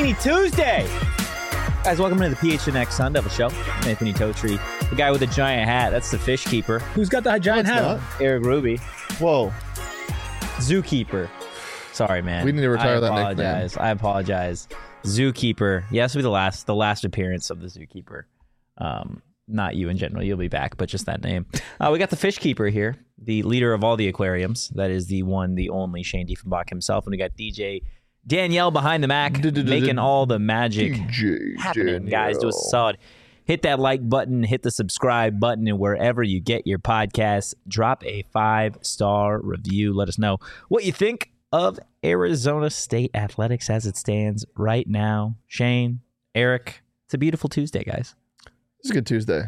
Happy Tuesday! Guys, welcome to the PHNX Sun Devil Show. I'm Anthony Totri, the guy with the giant hat. That's the fish keeper. Who's got the giant hat on? Eric Ruby. Whoa. Zookeeper. Sorry, man. We need to retire that nickname. I apologize. Zookeeper. Yeah, this will be the last appearance of the Zookeeper. Not you in general. You'll be back, but just that name. We got the fish keeper here, the leader of all the aquariums. That is the one, the only Shane Diefenbach himself. And we got DJ Danielle behind the Mac, making all the magic happening. Guys, do us a solid. Hit that like button, hit the subscribe button, and wherever you get your podcasts, drop a 5-star review. Let us know what you think of Arizona State athletics as it stands right now. Shane, Eric, it's a beautiful Tuesday, guys. It's a good Tuesday.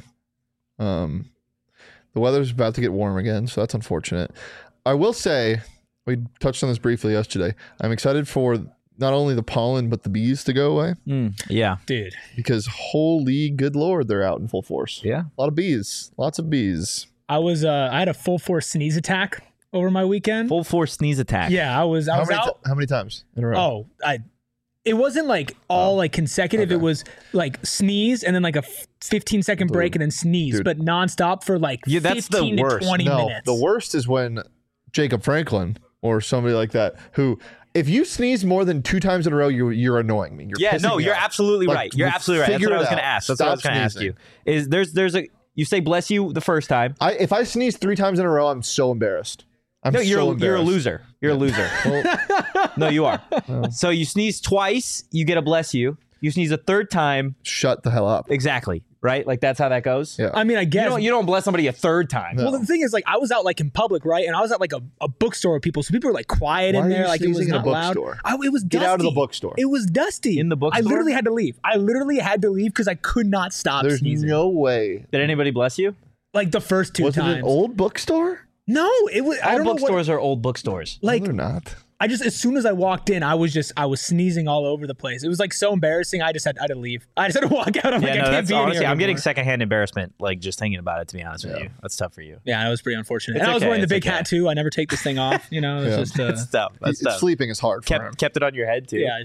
The weather's about to get warm again, so that's unfortunate. I will say, we touched on this briefly yesterday. I'm excited for not only the pollen, but the bees to go away. Yeah. Dude. Because holy good Lord, they're out in full force. Yeah. A lot of bees. Lots of bees. I had a full force sneeze attack over my weekend. Full force sneeze attack. Yeah, I was out. How many times in a row? It wasn't like all like consecutive. Okay. It was like sneeze and then like a 15-second break and then sneeze, but nonstop for like 15 to 20 minutes. The worst is when Jacob Franklin or somebody like that who, if you sneeze more than 2 times in a row, you're annoying me. You're absolutely Like, right. You're absolutely right. That's what I was going to ask. That's what I was going to ask you. Is there's a you say bless you the first time. If I sneeze 3 times in a row, I'm so embarrassed. You're a loser. You're a loser. No, you are. So you sneeze twice, you get a bless you. You sneeze a third time. Shut the hell up. Exactly. Right? Like that's how that goes. Yeah. I mean, I guess you don't bless somebody a third time. No. Well, the thing is, like, I was out like in public, right? And I was at like a bookstore with people, so people were like quiet in there, like it was not loud. It was dusty. Get out of the bookstore. It was dusty in the bookstore. I literally had to leave. because I could not stop sneezing. There's no way. Did anybody bless you? Like the first 2 times. Was it an old bookstore? No, it was. All bookstores are old bookstores. Like no, they're not. I just, as soon as I walked in, I was sneezing all over the place. It was like so embarrassing. I had to leave. I just had to walk out. I can't be honestly, here I'm getting secondhand embarrassment, like just thinking about it, to be honest with you. That's tough for you. Yeah, it was pretty unfortunate. And I was wearing the big hat too. I never take this thing off. You know, it's just That's tough. That's tough. Sleeping is hard for him. Kept it on your head too. Yeah.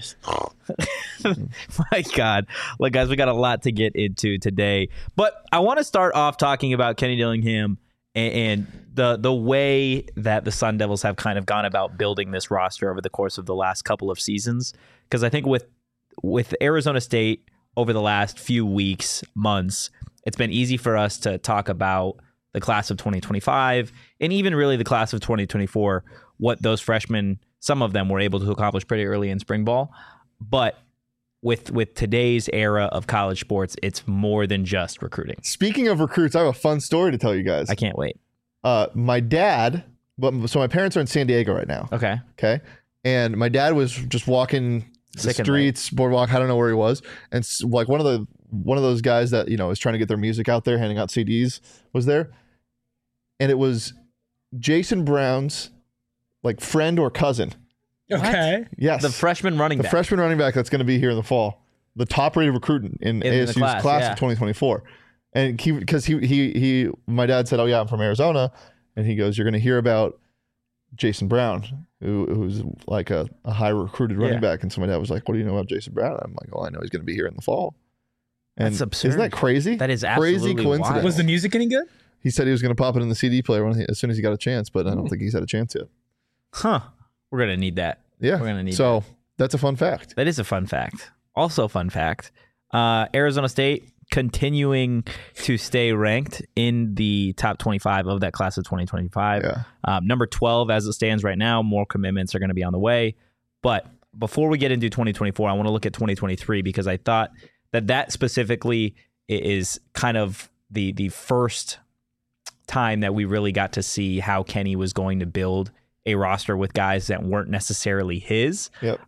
My God. Look, guys, we got a lot to get into today. But I want to start off talking about Kenny Dillingham and the way that the Sun Devils have kind of gone about building this roster over the course of the last couple of seasons. Because I think with Arizona State over the last few weeks, months, it's been easy for us to talk about the class of 2025 and even really the class of 2024, what those freshmen, some of them were able to accomplish pretty early in spring ball. But with today's era of college sports, it's more than just recruiting. Speaking of recruits, I have a fun story to tell you guys. I can't wait. My dad, so my parents are in San Diego right now. Okay. And my dad was just walking the streets, boardwalk, I don't know where he was. And like one of those guys that, is trying to get their music out there, handing out CDs was there. And it was Jason Brown's like friend or cousin. Okay. What? Yes. The freshman running back. The freshman running back that's going to be here in the fall. The top rated recruit in ASU's class of 2024. And because my dad said, "Oh yeah, I'm from Arizona," and he goes, "You're going to hear about Jason Brown, who's like a high recruited running back." And so my dad was like, "What do you know about Jason Brown?" And I'm like, "Oh, I know he's going to be here in the fall." And that's absurd. Isn't that crazy? That is absolutely crazy coincidence. wild. Was the music any good? He said he was going to pop it in the CD player as soon as he got a chance, but I don't think he's had a chance yet. Huh. We're going to need that. Yeah. We're going to need that. that. That's a fun fact. That is a fun fact. Also fun fact, Arizona State continuing to stay ranked in the top 25 of that class of 2025. Yeah. Number 12 as it stands right now. More commitments are going to be on the way. But before we get into 2024, I want to look at 2023 because I thought that specifically is kind of the first time that we really got to see how Kenny was going to build a roster with guys that weren't necessarily his. Yep.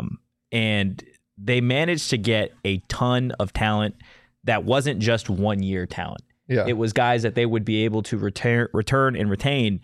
And they managed to get a ton of talent that wasn't just 1 year talent. Yeah. It was guys that they would be able to return and retain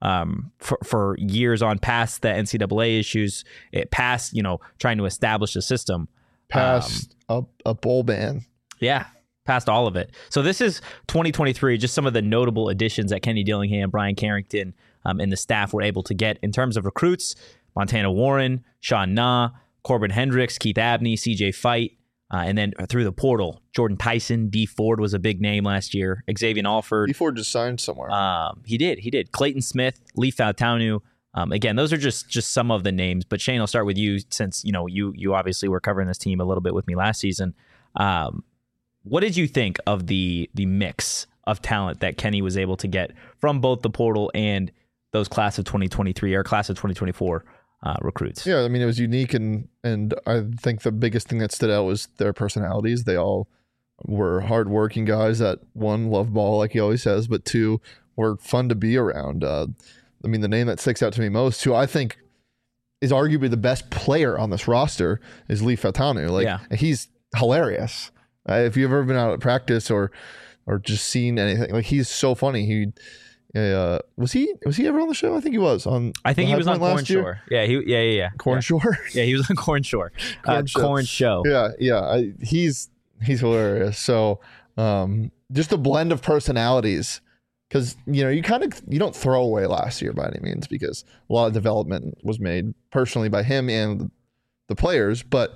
for years on past the NCAA issues, past, trying to establish a system. Past a bowl ban. Yeah. Past all of it. So this is 2023, just some of the notable additions that Kenny Dillingham, Brian Carrington, and the staff were able to get in terms of recruits. Montana Warren, Sean Na, Corbin Hendricks, Keith Abney, CJ Fight, and then through the portal, Jordan Tyson, D Ford was a big name last year. Xavier Alford. D Ford just signed somewhere. He did. Clayton Smith, Lee Fautanu. Again, those are just some of the names. But Shane, I'll start with you since you obviously were covering this team a little bit with me last season. What did you think of the mix of talent that Kenny was able to get from both the portal and those class of 2023 or class of 2024 recruits? Yeah, I mean, it was unique, and I think the biggest thing that stood out was their personalities. They all were hardworking guys that, one, love ball, like he always says, but two, were fun to be around. I mean, the name that sticks out to me most, who I think is arguably the best player on this roster, is Lee Fautanu. He's hilarious. If you've ever been out at practice or just seen anything, he's so funny. He was he ever on the show? I think he was on. I think he was on Corn Shore. Yeah. Corn Shore. Yeah, he was on Corn Shore. Corn Show. Yeah. He's hilarious. So just a blend of personalities. Because, you don't throw away last year by any means, because a lot of development was made personally by him and the players. But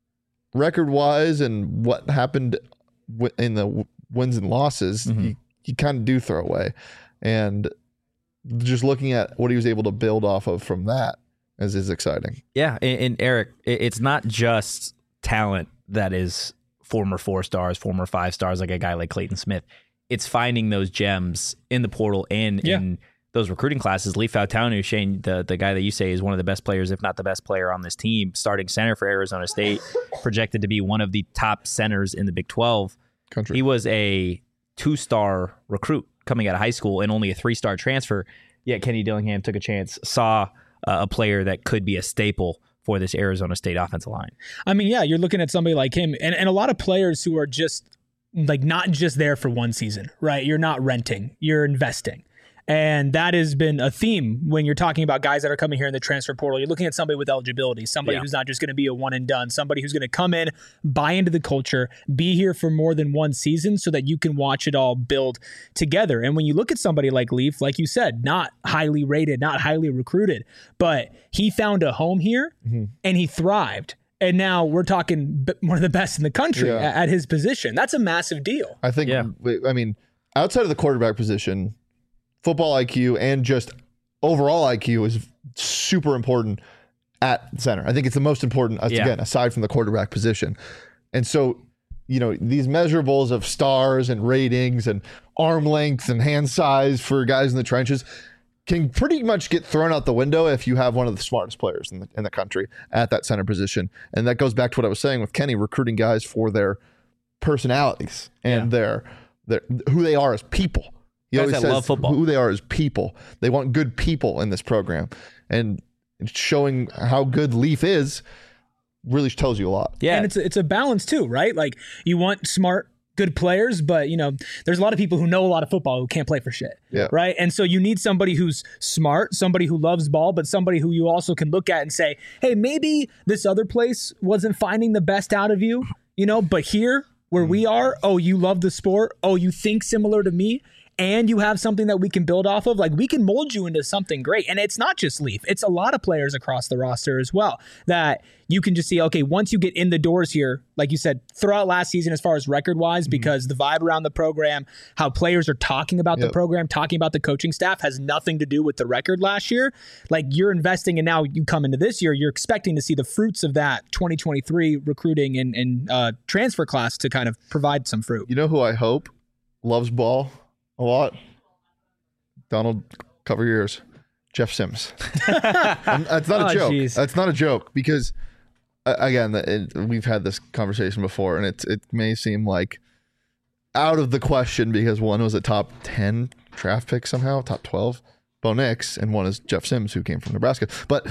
record-wise and what happened in the wins and losses, you kind of do throw away. And just looking at what he was able to build off of from that is exciting. Yeah, and Eric, it's not just talent that is former 4 stars, former 5 stars, like a guy like Clayton Smith. It's finding those gems in the portal and in those recruiting classes. Lee Fautanu, Shane, the guy that you say is one of the best players, if not the best player on this team, starting center for Arizona State, projected to be one of the top centers in the Big 12. He was a 2-star recruit coming out of high school and only a 3-star transfer. Yet Kenny Dillingham took a chance, saw a player that could be a staple for this Arizona State offensive line. I mean, yeah, you're looking at somebody like him and a lot of players who are just not just there for one season, right? You're not renting, you're investing. And that has been a theme when you're talking about guys that are coming here in the transfer portal. You're looking at somebody with eligibility, somebody who's not just going to be a one and done, somebody who's going to come in, buy into the culture, be here for more than one season so that you can watch it all build together. And when you look at somebody like Leaf, like you said, not highly rated, not highly recruited, but he found a home here and he thrived. And now we're talking one of the best in the country at his position. That's a massive deal. I think, I mean, outside of the quarterback position, football IQ and just overall IQ is super important at center. I think it's the most important, again, aside from the quarterback position. And so, these measurables of stars and ratings and arm length and hand size for guys in the trenches can pretty much get thrown out the window if you have one of the smartest players in the country at that center position. And that goes back to what I was saying with Kenny, recruiting guys for their personalities and their who they are as people. He always says love football. Who they are as people. They want good people in this program. And showing how good Leaf is really tells you a lot. Yeah. And it's a balance too, right? Like, you want smart, good players, but there's a lot of people who know a lot of football who can't play for shit, right? And so you need somebody who's smart, somebody who loves ball, but somebody who you also can look at and say, hey, maybe this other place wasn't finding the best out of you, but here where we are, oh, you love the sport, oh, you think similar to me, and you have something that we can build off of. Like, we can mold you into something great. And it's not just Leaf. It's a lot of players across the roster as well that you can just see, okay, once you get in the doors here, like you said, throughout last season as far as record-wise, because the vibe around the program, how players are talking about the program, talking about the coaching staff has nothing to do with the record last year. Like, you're investing, and now you come into this year, you're expecting to see the fruits of that 2023 recruiting and transfer class to kind of provide some fruit. You know who I hope loves ball a lot? Donald, cover your ears. Jeff Sims. That's not a joke. Geez. That's not a joke, because again, we've had this conversation before, and it may seem like out of the question because one was a top 10 draft pick somehow, top 12, Bo Nix, and one is Jeff Sims, who came from Nebraska. But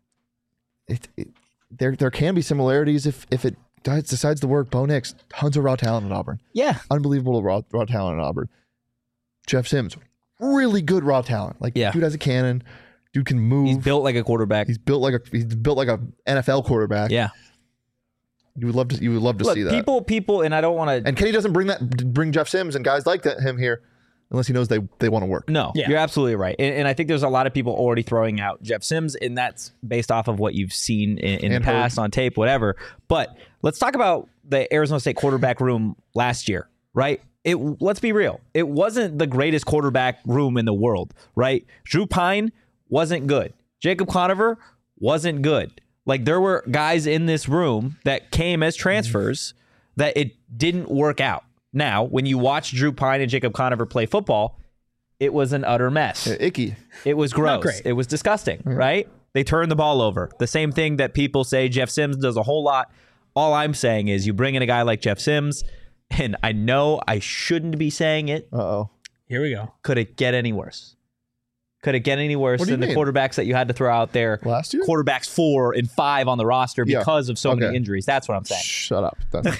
there can be similarities if it decides to work. Bo Nix, tons of raw talent at Auburn. Yeah. Unbelievable raw talent at Auburn. Jeff Sims, really good raw talent. Like, dude has a cannon. Dude can move. He's built like a quarterback. He's built like a NFL quarterback. Yeah. You would love to see that. People, and I don't want to. And Kenny doesn't bring Jeff Sims and guys like him here unless he knows they want to work. No, you're absolutely right. And I think there's a lot of people already throwing out Jeff Sims, and that's based off of what you've seen in the past on tape, whatever. But let's talk about the Arizona State quarterback room last year, right? Let's be real. It wasn't the greatest quarterback room in the world, right? Drew Pine wasn't good. Jacob Conover wasn't good. Like, there were guys in this room that came as transfers that it didn't work out. Now, when you watch Drew Pine and Jacob Conover play football, it was an utter mess. Icky. It was gross. It was disgusting, right? They turned the ball over. The same thing that people say Jeff Sims does a whole lot. All I'm saying is you bring in a guy like Jeff Sims, and I know I shouldn't be saying it. Uh-oh. Here we go. Could it get any worse? Could it get any worse than the quarterbacks that you had to throw out there last year? Quarterbacks 4 and 5 on the roster because of so many injuries. That's what I'm saying. Shut up.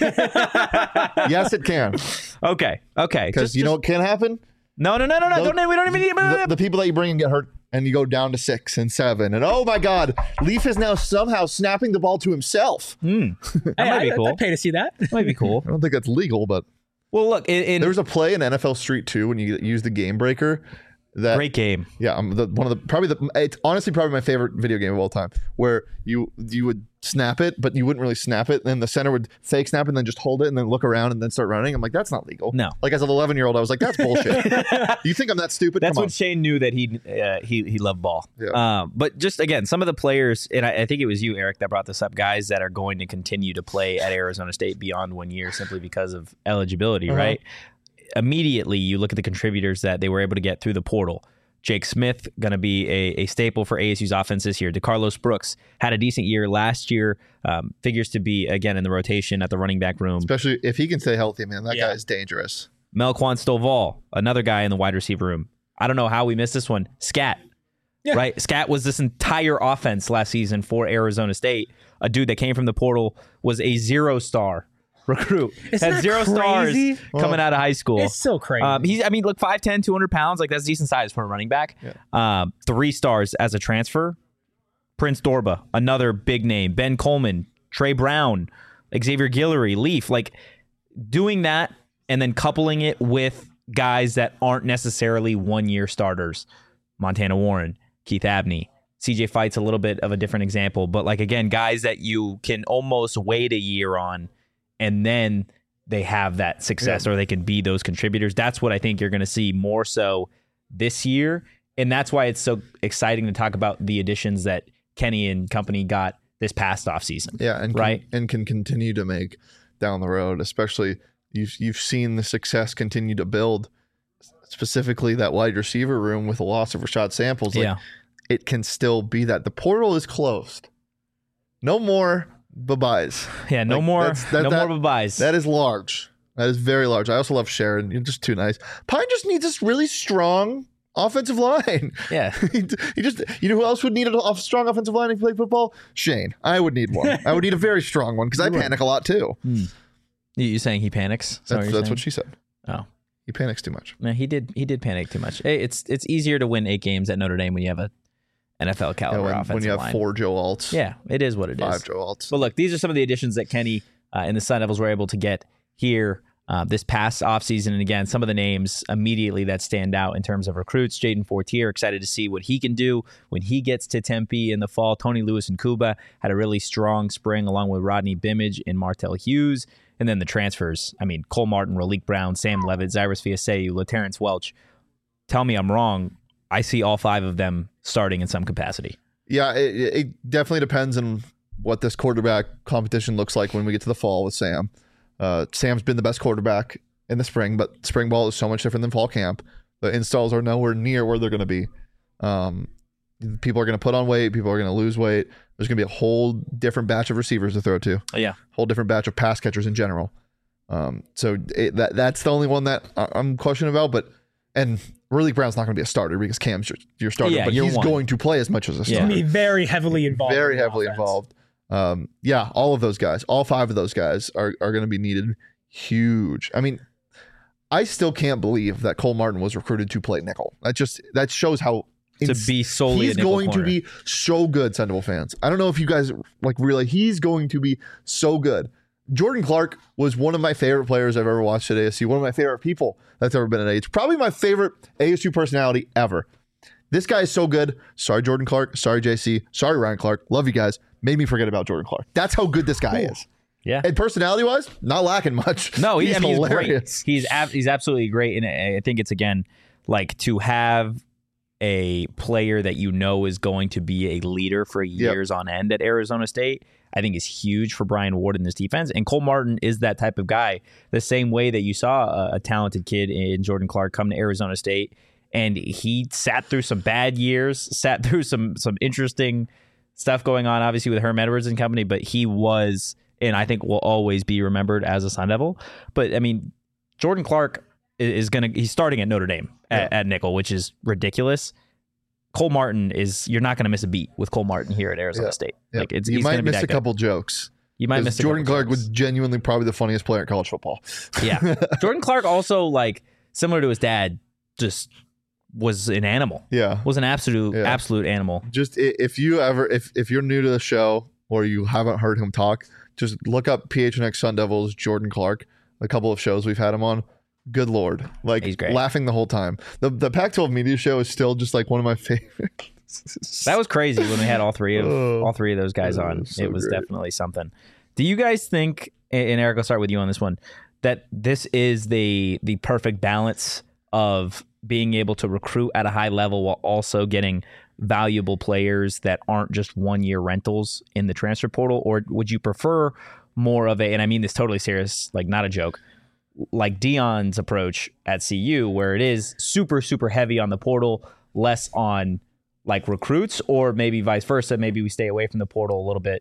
Yes, it can. Okay. Because you know what can happen? No. We don't even need the people that you bring and get hurt, and you go down to 6 and 7, and oh my God, Leaf is now somehow snapping the ball to himself. That might be cool. I'd pay to see that. Might be cool. I don't think that's legal, but well, look, there was a play in NFL Street 2 when you use the game breaker. Great game. Yeah, it's honestly probably my favorite video game of all time, where you would snap it, but you wouldn't really snap it. Then the center would fake snap and then just hold it and then look around and then start running. I'm like, that's not legal. No. Like, as an 11-year-old, I was like, that's bullshit. You think I'm that stupid? That's when Shane knew that he loved ball. Yeah. But just again, some of the players, and I think it was you, Eric, that brought this up, guys that are going to continue to play at Arizona State beyond 1 year simply because of eligibility, right? Immediately, you look at the contributors that they were able to get through the portal. Jake Smith, going to be a staple for ASU's offense this year. DeCarlos Brooks had a decent year last year. Figures to be, again, in the rotation at the running back room. Especially if he can stay healthy, man. That guy is dangerous. Melquan Stovall, another guy in the wide receiver room. I don't know how we missed this one. Scat, right? Scat was this entire offense last season for Arizona State. A dude that came from the portal, was a 0-star recruit. Had 0 stars coming out of high school. It's so crazy. Look, 5'10", 200 pounds. Like, that's decent size for a running back. 3 stars as a transfer. Prince Dorba, another big name. Ben Coleman, Trey Brown, Xavier Guillory, Leaf. Like, doing that and then coupling it with guys that aren't necessarily 1-year starters. Montana Warren, Keith Abney. CJ Fight's a little bit of a different example. But, like, again, guys that you can almost wait a year on and then they have that success or they can be those contributors. That's what I think you're going to see more so this year. And that's why it's so exciting to talk about the additions that Kenny and company got this past offseason. Yeah, and can continue to make down the road, especially you've seen the success continue to build, specifically that wide receiver room with the loss of Rashad Samples. Like, it can still be that. The portal is closed. No more bye-byes. Yeah, no more bye-byes. That is large. That is very large. I also love Sharon. You're just too nice. Pine just needs this really strong offensive line. Yeah. he just, you know who else would need a strong offensive line if you play football? Shane. I would need one. I would need a very strong one because I panic a lot too. You saying he panics? That's what she said. Oh. He panics too much. No, he did panic too much. Hey, it's easier to win 8 games at Notre Dame when you have a NFL caliber offensive line. When you have 4 Joe Alts. Yeah, it is what it 5 is. 5 Joe Alts. But look, these are some of the additions that Kenny and the Sun Devils were able to get here this past offseason. And again, some of the names immediately that stand out in terms of recruits. Jaden Fortier, excited to see what he can do when he gets to Tempe in the fall. Tony Lewis and Cuba had a really strong spring along with Rodney Bimage and Martell Hughes. And then the transfers. I mean, Cole Martin, Raleek Brown, Sam Levitt, Zyrus Fiaseu, LaTerrence Welch. Tell me I'm wrong. I see all 5 of them starting in some capacity. Yeah, it definitely depends on what this quarterback competition looks like when we get to the fall with Sam. Sam's been the best quarterback in the spring, but spring ball is so much different than fall camp. The installs are nowhere near where they're going to be. People are going to put on weight. People are going to lose weight. There's going to be a whole different batch of receivers to throw to. Yeah. Whole different batch of pass catchers in general. So that's the only one that I'm questioning about. And Raleek Brown's not going to be a starter because Cam's your starter, but he's going to play as much as a starter. He's going to be very heavily involved. Very heavily involved. All of those guys, all 5 of those guys are going to be needed. Huge. I mean, I still can't believe that Cole Martin was recruited to play nickel. That shows how to be solely he's going to be so good, Sun Devil fans. I don't know if you guys realize he's going to be so good. Jordan Clark was one of my favorite players I've ever watched at ASU. One of my favorite people that's ever been at ASU. Probably my favorite ASU personality ever. This guy is so good. Sorry, Jordan Clark. Sorry, JC. Sorry, Ryan Clark. Love you guys. Made me forget about Jordan Clark. That's how good this guy is. Yeah. And personality-wise, not lacking much. No, he's hilarious. Great. He's absolutely great. And I think it's, again, like to have a player that you know is going to be a leader for years on end at Arizona State, I think is huge for Brian Ward in this defense. And Cole Martin is that type of guy, the same way that you saw a talented kid in Jordan Clark come to Arizona State. And he sat through some bad years, sat through some interesting stuff going on, obviously, with Herm Edwards and company, but he was, and I think will always be remembered as a Sun Devil. But, I mean, Jordan Clark he's starting at Notre Dame at nickel, which is ridiculous. Cole Martin you're not going to miss a beat with Cole Martin here at Arizona State. Like you might miss a couple jokes. You might miss Jordan Clark was genuinely probably the funniest player in college football. Yeah. Jordan Clark also, like, similar to his dad, just was an animal. Yeah. Was an absolute animal. Just if you're new to the show or you haven't heard him talk, just look up PHNX Sun Devils Jordan Clark. A couple of shows we've had him on. Good Lord. Like, he's great. Laughing the whole time. The Pac-12 media show is still just like one of my favorites. That was crazy when we had all three of those guys on. It was definitely something. Do you guys think, and Eric, I'll start with you on this one, that this is the perfect balance of being able to recruit at a high level while also getting valuable players that aren't just 1-year rentals in the transfer portal? Or would you prefer more of and I mean this totally serious, like not a joke, like Deion's approach at CU, where it is super, super heavy on the portal, less on like recruits, or maybe vice versa? Maybe we stay away from the portal a little bit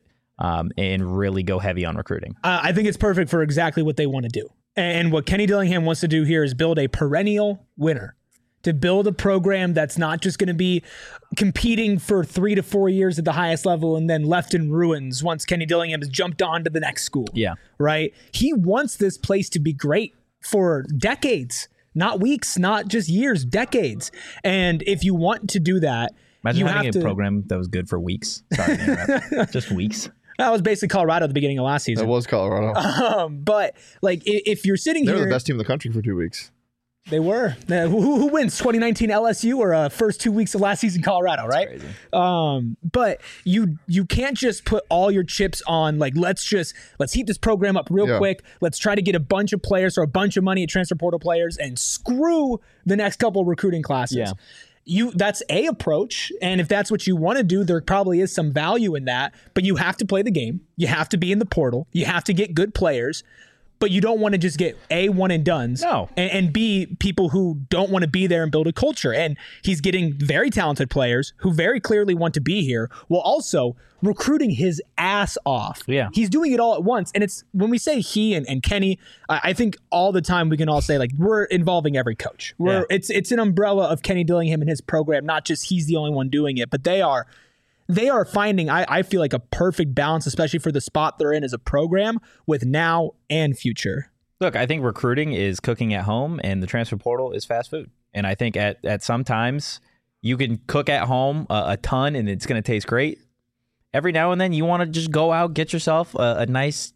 and really go heavy on recruiting. I think it's perfect for exactly what they want to do. And what Kenny Dillingham wants to do here is build a perennial winner, to build a program that's not just going to be competing for 3 to 4 years at the highest level and then left in ruins once Kenny Dillingham has jumped on to the next school. Yeah. Right? He wants this place to be great for decades, not weeks, not just years, decades. And if you want to do that, imagine having a program that was good for weeks. Sorry to interrupt. Just weeks. That was basically Colorado at the beginning of last season. That was Colorado. But like, if you're sitting here, they're the best team in the country for 2 weeks. They were. Who wins 2019 LSU or first 2 weeks of last season Colorado, right? That's crazy. But you can't just put all your chips on like let's heat this program up real quick. Let's try to get a bunch of players or a bunch of money at transfer portal players and screw the next couple of recruiting classes. Yeah. That's a approach, and if that's what you want to do, there probably is some value in that. But you have to play the game. You have to be in the portal. You have to get good players. But you don't want to just get A, one and dones. No. And B, people who don't want to be there and build a culture. And he's getting very talented players who very clearly want to be here, while also recruiting his ass off. Yeah. He's doing it all at once. And it's when we say he and Kenny, I think all the time we can all say, like, we're involving every coach. It's an umbrella of Kenny Dillingham and his program, not just he's the only one doing it, but they are finding, I feel like, a perfect balance, especially for the spot they're in as a program with now and future. Look, I think recruiting is cooking at home and the transfer portal is fast food. And I think at some times you can cook at home a ton and it's going to taste great. Every now and then you want to just go out, get yourself a nice,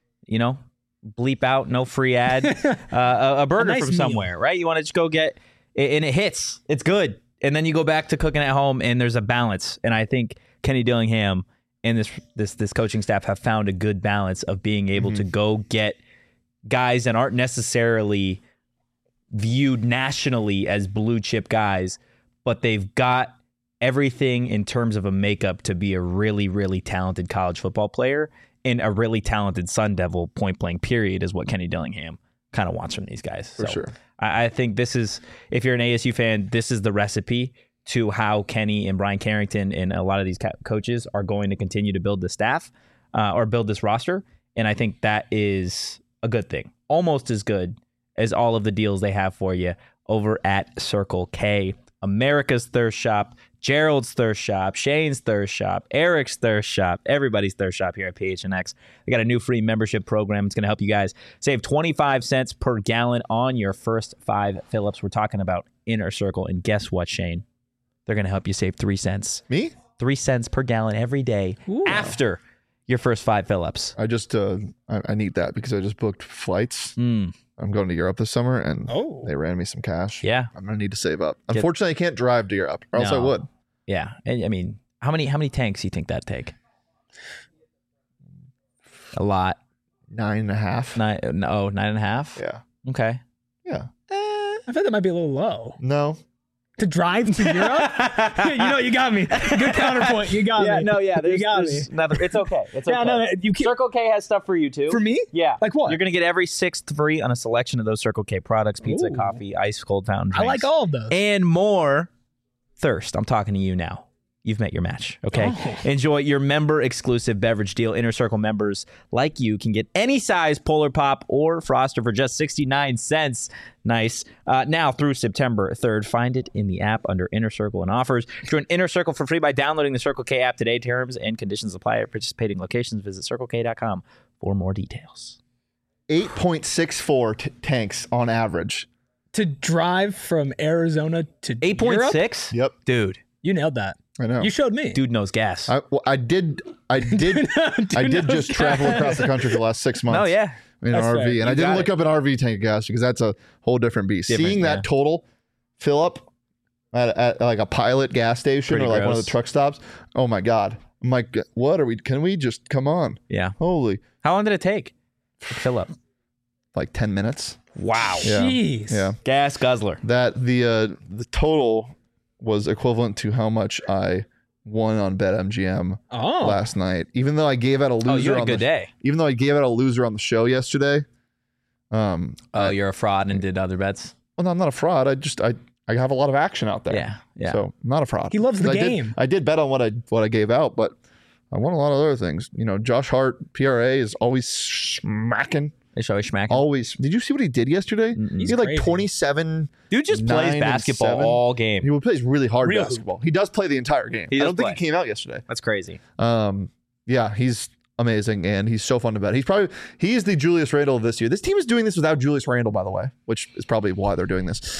bleep out, no free ad, a burger from somewhere, right? You want to just go get, and it hits. It's good. And then you go back to cooking at home, and there's a balance. And I think Kenny Dillingham and this coaching staff have found a good balance of being able to go get guys that aren't necessarily viewed nationally as blue chip guys, but they've got everything in terms of a makeup to be a really, really talented college football player and a really talented Sun Devil, point blank period, is what Kenny Dillingham kind of wants from these guys. For sure. I think this is, if you're an ASU fan, this is the recipe to how Kenny and Brian Carrington and a lot of these coaches are going to continue to build the staff or build this roster. And I think that is a good thing. Almost as good as all of the deals they have for you over at Circle K. America's Thirst Shop, Gerald's Thirst Shop, Shane's Thirst Shop, Eric's Thirst Shop, everybody's Thirst Shop here at PHNX. They got a new free membership program. It's going to help you guys save 25 cents per gallon on your first 5 fill-ups. We're talking about Inner Circle. And guess what, Shane? They're going to help you save 3 cents. Me? 3 cents per gallon every day after your first 5 fill-ups? I just I need that because I just booked flights. I'm going to Europe this summer, and they ran me some cash. Yeah, I'm gonna need to save up. Unfortunately, I can't drive to Europe, or else I would. Yeah, I mean, how many tanks do you think that'd take? A lot. 9.5. 9.5. Yeah. Okay. Yeah. I thought that might be a little low. No. To drive to Europe? You got me. Good counterpoint. You got me. No, yeah. You got me. It's okay. It's okay. No, you can't. Circle K has stuff for you too. For me? Yeah. Like what? You're going to get every 6th free on a selection of those Circle K products, pizza, coffee, ice cold fountain drinks. I like all of those. And more. Thirst. I'm talking to you now. You've met your match, okay? Enjoy your member-exclusive beverage deal. Inner Circle members like you can get any size Polar Pop or Froster for just 69 cents. Nice. Now through September 3rd, find it in the app under Inner Circle and offers. Join Inner Circle for free by downloading the Circle K app today. Terms and conditions apply at participating locations. Visit CircleK.com for more details. 8.64 tanks on average. To drive from Arizona to 8.6? Yep. Dude. You nailed that. I know. You showed me. Dude knows gas. I did just travel across the country for the last 6 months. Oh, yeah. In an RV. Fair. And I didn't look up an RV tank of gas because that's a whole different beast. Seeing that total fill up at like a Pilot gas station or like one of the truck stops. Oh my God. I'm like, can we just come on? Yeah. Holy. How long did it take to fill up? Like 10 minutes. Wow. Yeah. Jeez. Yeah. Gas guzzler. That the total was equivalent to how much I won on BetMGM last night. Even though I gave out a loser you had a good day. Even though I gave out a loser on the show yesterday. You're a fraud and did other bets? Well, no, I'm not a fraud. I have a lot of action out there. Yeah. So I'm not a fraud. He loves the game. I did bet on what I gave out, but I won a lot of other things. You know, Josh Hart, PRA is always smacking. It's always smacking. Always. Did you see what he did yesterday? He had like 27. Dude just plays basketball all game. He plays really hard basketball. He does play the entire game. I don't think he came out yesterday. That's crazy. Yeah, he's amazing and he's so fun to bet. He's the Julius Randle of this year. This team is doing this without Julius Randle, by the way, which is probably why they're doing this.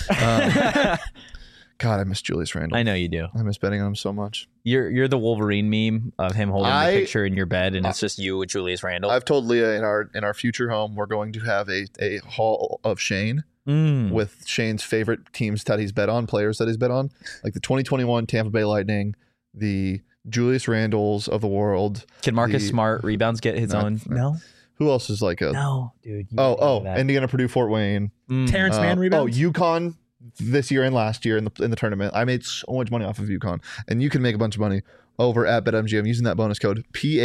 God, I miss Julius Randle. I know you do. I miss betting on him so much. You're the Wolverine meme of him holding the picture in your bed, and it's just you with Julius Randle. I've told Leah in our future home we're going to have a hall of Shane with Shane's favorite teams that he's bet on, players that he's bet on, like the 2021 Tampa Bay Lightning, the Julius Randles of the world. Can Marcus Smart rebounds get his own? No. Who else is like a? No, dude. Indiana, Purdue, Fort Wayne. Terrence Mann rebounds. UConn. This year and last year in the tournament, I made so much money off of UConn, and you can make a bunch of money over at BetMGM using that bonus code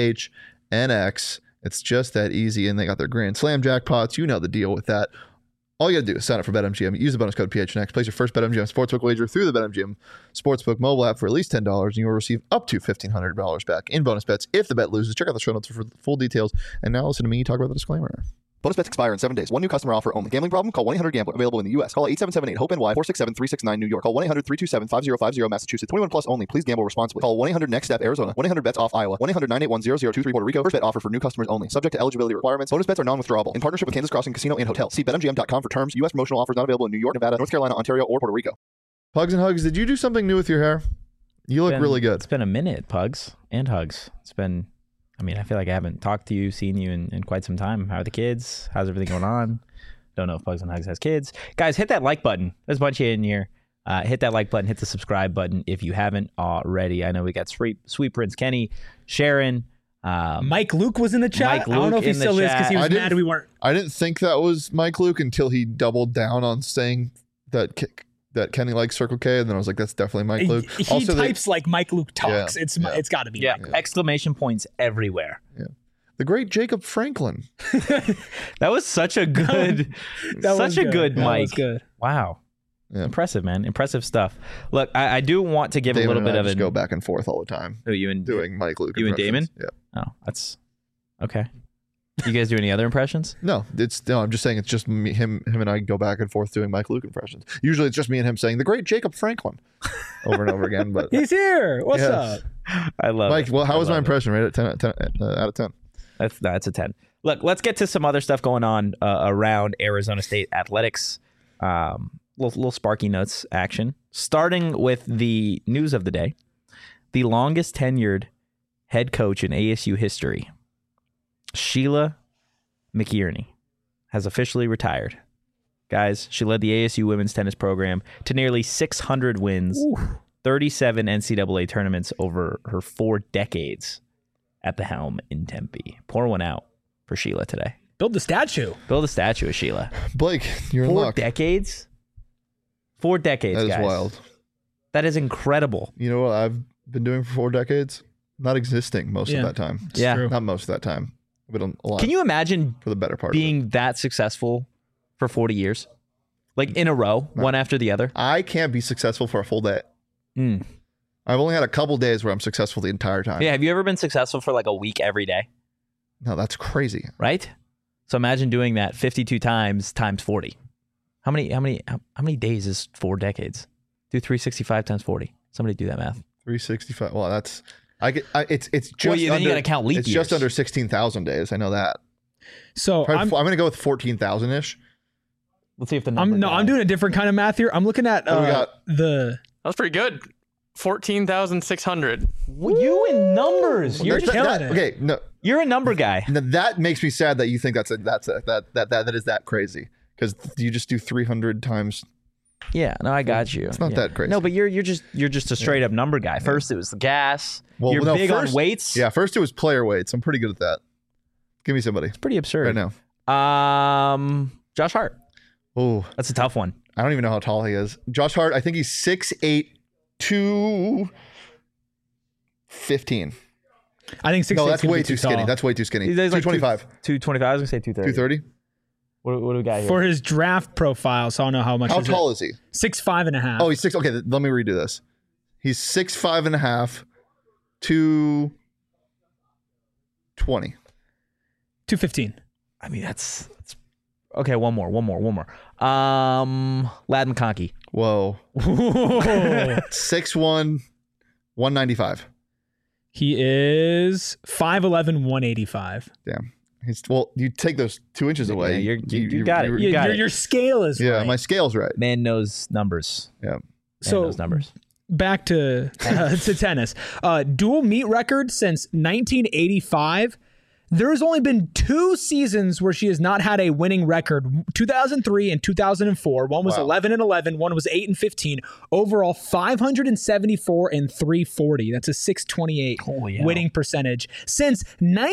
PHNX. It's just that easy, and they got their Grand Slam jackpots. You know the deal with that. All you got to do is sign up for BetMGM, use the bonus code PHNX, place your first BetMGM Sportsbook wager through the BetMGM Sportsbook mobile app for at least $10, and you will receive up to $1,500 back in bonus bets if the bet loses. Check out the show notes for full details. And now listen to me talk about the disclaimer. Bonus bets expire in 7 days. One new customer offer only. Gambling problem? Call 1-800-GAMBLER. Available in the U.S. Call 877-8-HOPE-NY 467-369 New York. Call 1-800-327-5050 Massachusetts. 21 plus only. Please gamble responsibly. Call 1-800-NEXT-STEP Arizona. 1-800-BETS-OFF Iowa. 1-800-981-0023 Puerto Rico. First bet offer for new customers only. Subject to eligibility requirements. Bonus bets are non-withdrawable. In partnership with Kansas Crossing Casino and Hotel. See BetMGM.com for terms. U.S. promotional offers not available in New York, Nevada, North Carolina, Ontario, or Puerto Rico. Pugs and Hugs, did you do something new with your hair? You look really good. It's been a minute, Pugs and Hugs. It's been... I feel like I haven't talked to you, seen you in quite some time. How are the kids? How's everything going on? Don't know if Pugs and Hugs has kids. Guys, hit that like button. There's a bunch of you in here. Hit that like button. Hit the subscribe button if you haven't already. I know we got Sweet Prince Kenny, Sharon. Mike Luke was in the chat. I don't know if he still is because he was mad we weren't. I didn't think that was Mike Luke until he doubled down on saying that Kenny likes Circle K, and then I was like, that's definitely Mike Luke. He also, types like Mike Luke talks. Yeah, it's got to be. Yeah, exclamation points everywhere. Yeah, the great Jacob Franklin. That was such a good, good Mike. That was good. Wow, impressive, man. Impressive stuff. Look, I do want to give Damon a little bit of just go back and forth all the time. Oh, you and doing Mike Luke. You and Damon? Yeah. Oh, that's okay. You guys do any other impressions? No, I'm just saying it's just me, him and I go back and forth doing Mike Luke impressions. Usually it's just me and him saying the great Jacob Franklin over and over again. But he's here. What's up? I love Mike. It. Well, how was my impression? Right at 10 out of 10. That's a 10. Look, let's get to some other stuff going on around Arizona State athletics. Little Sparky Notes action. Starting with the news of the day, the longest tenured head coach in ASU history Sheila McIerney has officially retired. Guys, she led the ASU women's tennis program to nearly 600 wins, 37 NCAA tournaments over her 4 decades at the helm in Tempe. Pour one out for Sheila today. Build the statue. Build a statue of Sheila. Blake, you're in luck. 4 decades? 4 decades, That is guys. wild. That is incredible. You know what I've been doing for 4 decades? Not existing most of that time. Yeah. True. Not most of that time, but a lot. Can you imagine for the better part being that successful for 40 years? Like in a row, one after the other? I can't be successful for a full day. I've only had a couple days where I'm successful the entire time. Yeah, have you ever been successful for like a week every day? No, that's crazy. Right? So imagine doing that 52 times 40. How many days is 4 decades? Do 365 times 40. Somebody do that math. 365. Well, that's it's just well, then you got to count leap It's years. just under 16,000 days. I know that. So I'm going to go with 14,000 ish. Let's see if the number. I'm doing a different kind of math here. I'm looking at That was pretty good. 14,600. You in numbers. You're just killing it. Okay, no, You're a number guy. that makes me sad that you think that is that crazy, because you just do 300 times. Yeah, no, I got you. It's not that crazy. No, but you're just a straight up number guy. First it was the gas. Well, you're no, big first- on weights. Yeah, first it was player weights. I'm pretty good at that. Give me somebody It's pretty absurd. right now. Josh Hart. Oh, That's a tough one. I don't even know how tall he is. Josh Hart, I think he's 6'8", 215. I think 6'8" No, that's way be too skinny. tall. That's way too skinny. He's like 225. 225. I was gonna say 230. 230. What do we got here? For his draft profile, so I don't know how much. How tall is he? 6'5.5". Oh, he's 6. Okay, let me redo this. He's 6'5.5", 220. 215. I mean, that's okay. One more. Lad McConkey. Whoa. 6'1", 195. He is 5'11", 185. Damn. Well, you take those 2 inches away. Yeah, you got it. You got it. Your scale is Yeah, right. my scale's right. Man knows numbers. Yeah. Man So knows numbers. back to tennis. Dual meet record since 1985. There has only been 2 seasons where she has not had a winning record. 2003 and 2004. One was 11-11. One was 8-15. Overall, 574 and 340. That's a 628 winning percentage since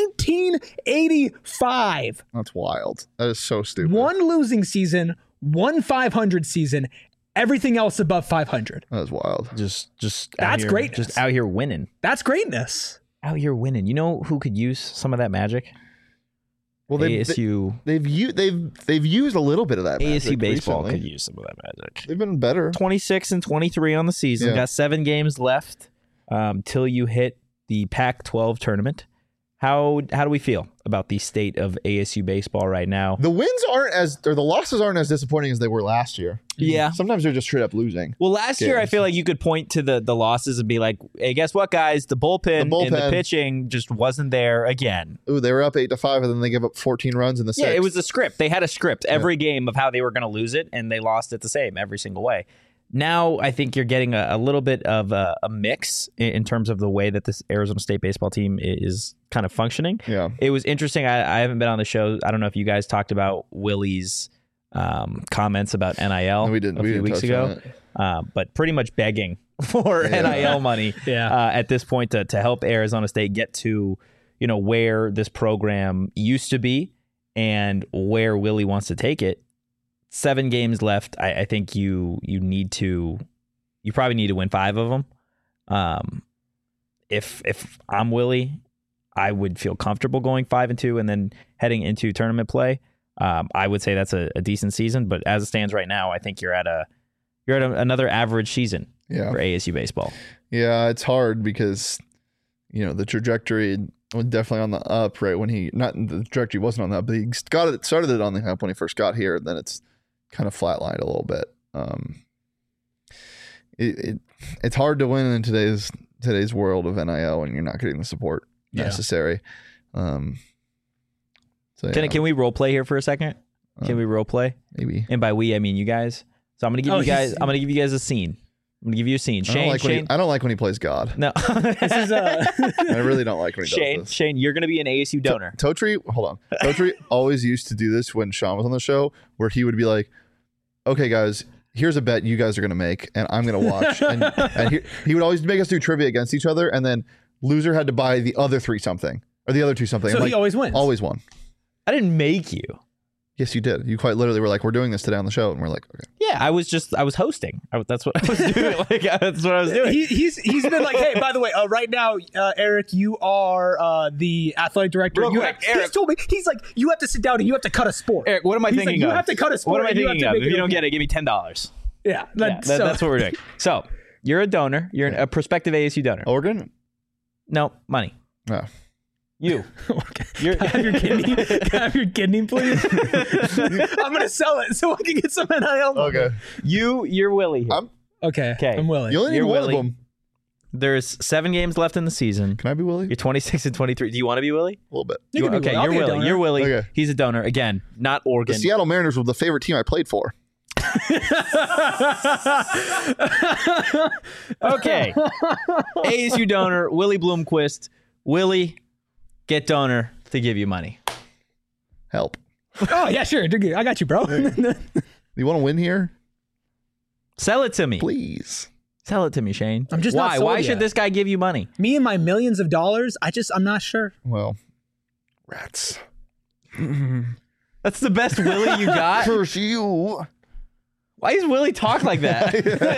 1985. That's wild. That is so stupid. 1 losing season, 1 500 season. Everything else above 500. That is wild. Just That's great. Just out here winning. That's greatness. Out here winning. You know who could use some of that magic? Well, ASU. They've used a little bit of that. ASU magic baseball recently. could use some of that magic. They've been better. 26 and 23 on the season. Yeah. Got 7 games left till you hit the Pac-12 tournament. How do we feel about the state of ASU baseball right now? The losses aren't as disappointing as they were last year. Yeah. Sometimes they're just straight up losing. Well, last year I games. feel like you could point to the losses and be like, hey, guess what, guys? The bullpen and the pitching just wasn't there again. Ooh, they were up 8-5, and then they gave up 14 runs in the 6th. Yeah, it was a script. They had a script every game of how they were going to lose it, and they lost it the same every single way. Now I think you're getting a little bit of a mix in terms of the way that this Arizona State baseball team is kind of functioning. Yeah. It was interesting. I haven't been on the show. I don't know if you guys talked about Willie's comments about NIL No, we didn't. a few weeks ago, but pretty much begging for NIL money at this point to help Arizona State get to where this program used to be and where Willie wants to take it. 7 games left. I think you probably need to win 5 of them. If I'm Willie, I would feel comfortable going 5-2 and then heading into tournament play. I would say that's a decent season, but as it stands right now, I think you're at another average season for ASU baseball. Yeah, it's hard because the trajectory was definitely on the up right when the trajectory wasn't on the up, but he started it on the up when he first got here, and then it's kind of flatlined a little bit. It's hard to win in today's world of NIL when you're not getting the support necessary. Can we role play here for a second? Can we role play? Maybe. And by we, I mean you guys. So I'm gonna give you guys a scene. I'm gonna give you a scene. Shane, I don't like when he plays God. No, this is I really don't like when he does this. Shane, you're gonna be an ASU donor. Totri, hold on. Totri always used to do this when Sean was on the show, where he would be like, "Okay, guys, here's a bet you guys are gonna make, and I'm gonna watch." and he would always make us do trivia against each other, and then loser had to buy the other three something or the other two something. So he always wins. Always won. I didn't make you. Yes, you did. You quite literally were like, "We're doing this today on the show," and we're like, "Okay." Yeah, I was hosting. That's what I was doing. That's what I was doing. He's been like, "Hey, by the way, right now, Eric, you are the athletic director." Eric, he's told me, he's like, "You have to sit down and you have to cut a sport." Eric, what am I thinking of? You have to cut a sport. What am I thinking of? If you don't get it, give me $10. Yeah, that's what we're doing. So you're a donor. You're a prospective ASU donor. Organ? No, money. No. You. Okay. Can I have your kidney? Can I have your kidney, please? I'm gonna sell it so I can get some NIL. Okay. You're Willie here. Okay. I'm Willie. You only need one of them. There's 7 games left in the season. Can I be Willie? You're 26 and 23. Do you want to be Willie? A little bit. You're Willie. You're Willie. Okay. He's a donor. Again, not Oregon. The Seattle Mariners were the favorite team I played for. Okay. ASU donor, Willie Bloomquist. Willie, get donor to give you money. Help. Oh, yeah, sure. I got you, bro. You want to win here? Sell it to me. Please. Sell it to me, Shane. I'm just Why? Not Why should this guy give you money? Me and my millions of dollars? I'm not sure. Well, rats. That's the best Willie you got? Curse you. Why does Willie talk like that?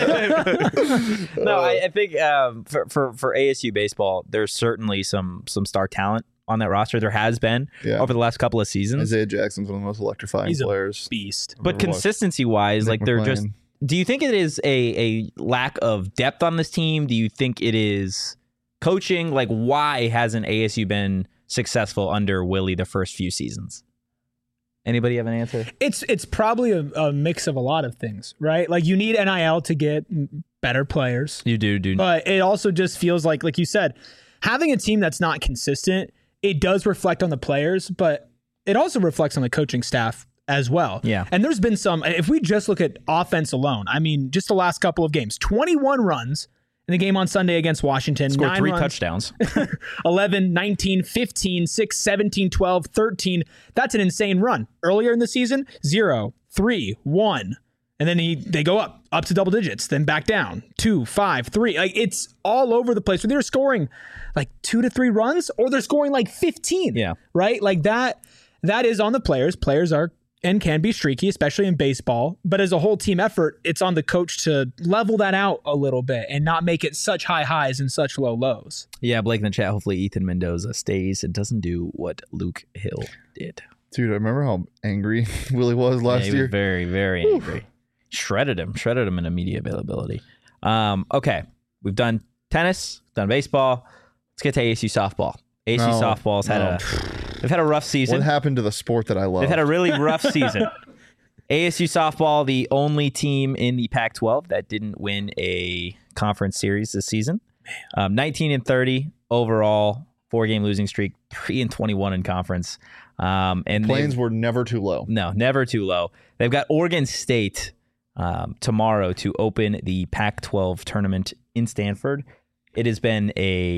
No, I think for ASU baseball, there's certainly some star talent on that roster. There has been over the last couple of seasons. Isaiah Jackson's one of the most electrifying players. A beast. But consistency-wise, like they're just... Do you think it is a lack of depth on this team? Do you think it is coaching? Like, why hasn't ASU been successful under Willie the first few seasons? Anybody have an answer? It's probably a mix of a lot of things, right? Like you need NIL to get better players. You do. But it also just feels like you said, having a team that's not consistent, it does reflect on the players, but it also reflects on the coaching staff as well. Yeah. And there's been if we just look at offense alone, I mean, just the last couple of games, 21 runs in the game on Sunday against Washington. Scored 3 touchdowns. 11, 19, 15, 6, 17, 12, 13. That's an insane run. Earlier in the season, 0, 3, 1. And then they go up to double digits, then back down. 2, 5, 3. Like it's all over the place. Where they're scoring like 2 to 3 runs or they're scoring like 15. Yeah. Right? Like that is on the players. Players are and can be streaky, especially in baseball. But as a whole team effort, it's on the coach to level that out a little bit and not make it such high highs and such low lows. Yeah, Blake in the chat, hopefully Ethan Mendoza stays and doesn't do what Luke Hill did. Dude, I remember how angry Willie was last year. He was very, very angry. Shredded him in media availability. Okay, we've done tennis, done baseball. Let's get to ASU softball. ASU softball's they've had a rough season. What happened to the sport that I love? They've had a really rough season. ASU softball, the only team in the Pac-12 that didn't win a conference series this season. 19-30 overall, 4-game losing streak, 3-21 in conference. And Plains were never too low. No, never too low. They've got Oregon State tomorrow to open the Pac-12 tournament in Stanford. It has been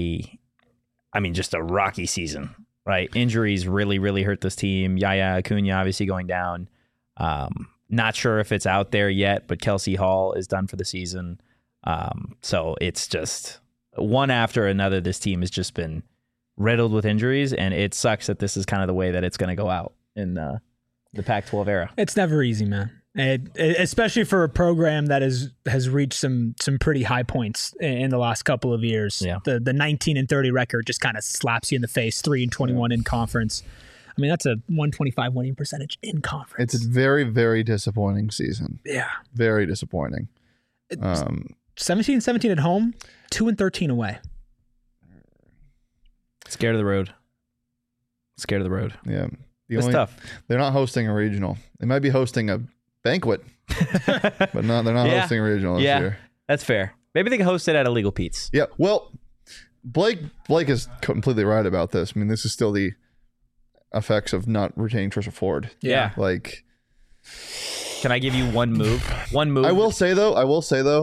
just a rocky season, right? Injuries really, really hurt this team. Yaya Acuna obviously going down. Not sure if it's out there yet, but Kelsey Hall is done for the season. So it's just one after another. This team has just been riddled with injuries, and it sucks that this is kind of the way that it's going to go out in the Pac-12 era. It's never easy, man. Especially for a program that has reached some pretty high points in the last couple of years. Yeah. The 19-30 record just kind of slaps you in the face. 3-21 in conference. I mean, that's a 125 winning percentage in conference. It's a very, very disappointing season. Yeah. Very disappointing. 17-17 at home, 2-13 away. Scared of the road. Yeah. It's tough. They're not hosting a regional. They might be hosting a banquet, but they're not hosting a regional this year. That's fair. Maybe they can host it at Illegal Pete's. Yeah. Well, Blake is completely right about this. I mean, this is still the effects of not retaining Trisha Ford. Yeah. Like, can I give you one move? I will say though,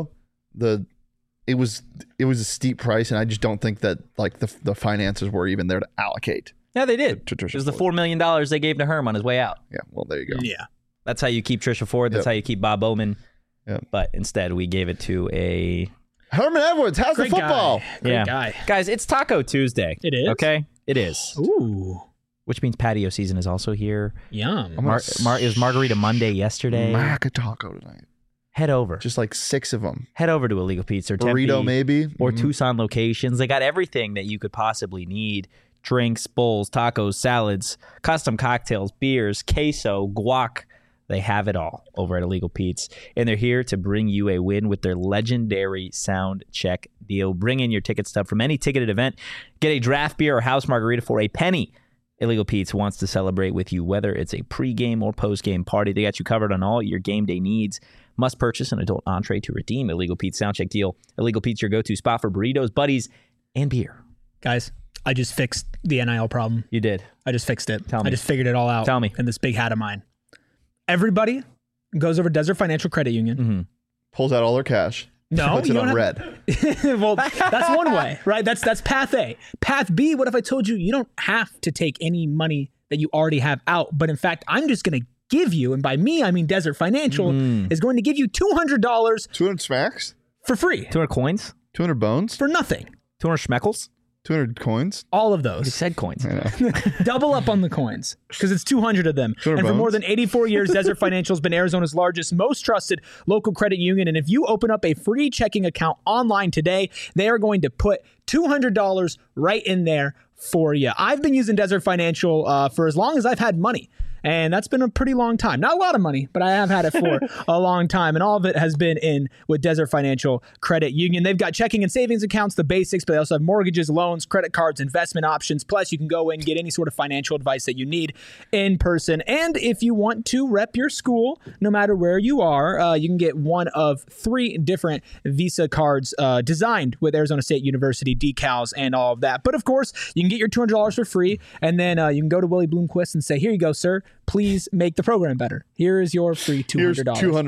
it was a steep price, and I just don't think that like the finances were even there to allocate. Yeah, they did. It was the $4 million they gave to Herm on his way out. Yeah, well, there you go. Yeah. That's how you keep Trisha Ford. That's how you keep Bob Bowman. Yep. But instead, we gave it to a... Herman Edwards, how's the football? Great guy. Guys, it's Taco Tuesday. It is? Okay? It is. Ooh. Which means patio season is also here. Yum. It was Margarita Monday yesterday. Mac a taco tonight. Head over. Just like 6 of them. Head over to Illegal Pizza or Burrito Tempe, maybe. or Tucson locations. They got everything that you could possibly need. Drinks, bowls, tacos, salads, custom cocktails, beers, queso, guac. They have it all over at Illegal Pete's, and they're here to bring you a win with their legendary sound check deal. Bring in your ticket stub from any ticketed event. Get a draft beer or house margarita for a penny. Illegal Pete's wants to celebrate with you, whether it's a pregame or postgame party. They got you covered on all your game day needs. Must purchase an adult entree to redeem Illegal Pete's sound check deal. Illegal Pete's your go-to spot for burritos, buddies, and beer. Guys, I just fixed the NIL problem. You did. I just fixed it. Tell me. I just figured it all out. Tell me. In this big hat of mine. Everybody goes over Desert Financial Credit Union. Mm-hmm. Pulls out all their cash. No, puts it on red. Well, that's one way, right? That's path A. Path B, what if I told you you don't have to take any money that you already have out, but in fact, I'm just going to give you, and by me, I mean Desert Financial, is going to give you $200. 200 smacks? For free. 200 coins? 200 bones? For nothing. 200 schmeckles? 200 coins? All of You those. said coins. Double up on the coins because it's 200 of them. 200 And for more bones? than 84 years, Desert Financial has been Arizona's largest, most trusted local credit union. And if you open up a free checking account online today, they are going to put $200 right in there for you. I've been using Desert Financial for as long as I've had money. And that's been a pretty long time. Not a lot of money, but I have had it for a long time. And all of it has been in with Desert Financial Credit Union. They've got checking and savings accounts, the basics, but they also have mortgages, loans, credit cards, investment options. Plus, you can go in and get any sort of financial advice that you need in person. And if you want to rep your school, no matter where you are, you can get one of 3 different Visa cards designed with Arizona State University decals and all of that. But of course, you can get your $200 for free. And then you can go to Willie Bloomquist and say, here you go, sir. Please make the program better. Here is your free $200. Here's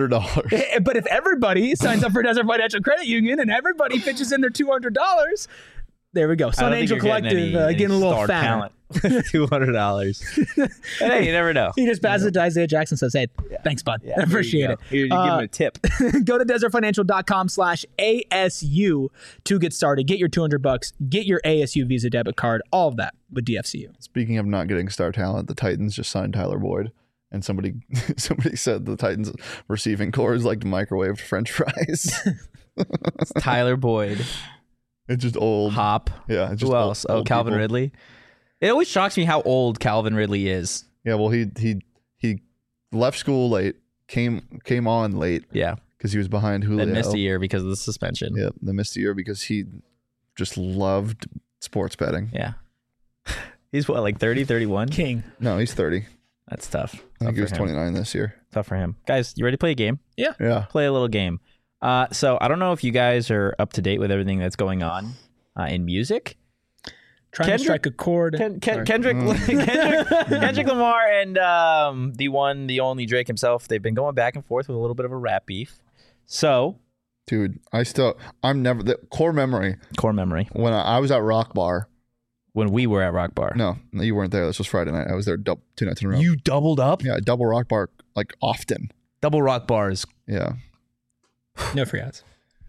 $200. But if everybody signs up for Desert Financial Credit Union and everybody pitches in their $200, there we go. Sun Angel Collective getting a little fat. $200. Hey, you never know. He just passes it to Isaiah Jackson, says, hey, thanks, bud. I appreciate it. Here, you give him a tip. Go to desertfinancial.com/ASU to get started. Get your $200. Get your ASU Visa debit card. All of that with DFCU. Speaking of not getting star talent, the Titans just signed Tyler Boyd. And somebody said the Titans receiving core is like microwaved French fries. It's Tyler Boyd. It's just old. Hop. Yeah. It's just Who else? Old Calvin people. Ridley. It always shocks me how old Calvin Ridley is. Yeah. Well, he left school late, came on late. Yeah. Because he was behind Julio. And missed a year because of the suspension. Yep. They missed a year because he just loved sports betting. Yeah. He's what, like 30, 31? King. No, he's 30. That's tough. I think he was 29 this year. Tough for him. Guys, you ready to play a game? Yeah. Yeah. Play a little game. So I don't know if you guys are up to date with everything that's going on in music. Trying to strike a chord. Kendrick Lamar and the one, the only Drake himself, they've been going back and forth with a little bit of a rap beef. So, dude, I'm never the core memory. When I was at Rock Bar. When we were at Rock Bar. No, you weren't there. This was Friday night. I was there 2 nights in a row. You doubled up? Yeah, double Rock Bar like often. Double Rock Bars. Yeah. No free ads.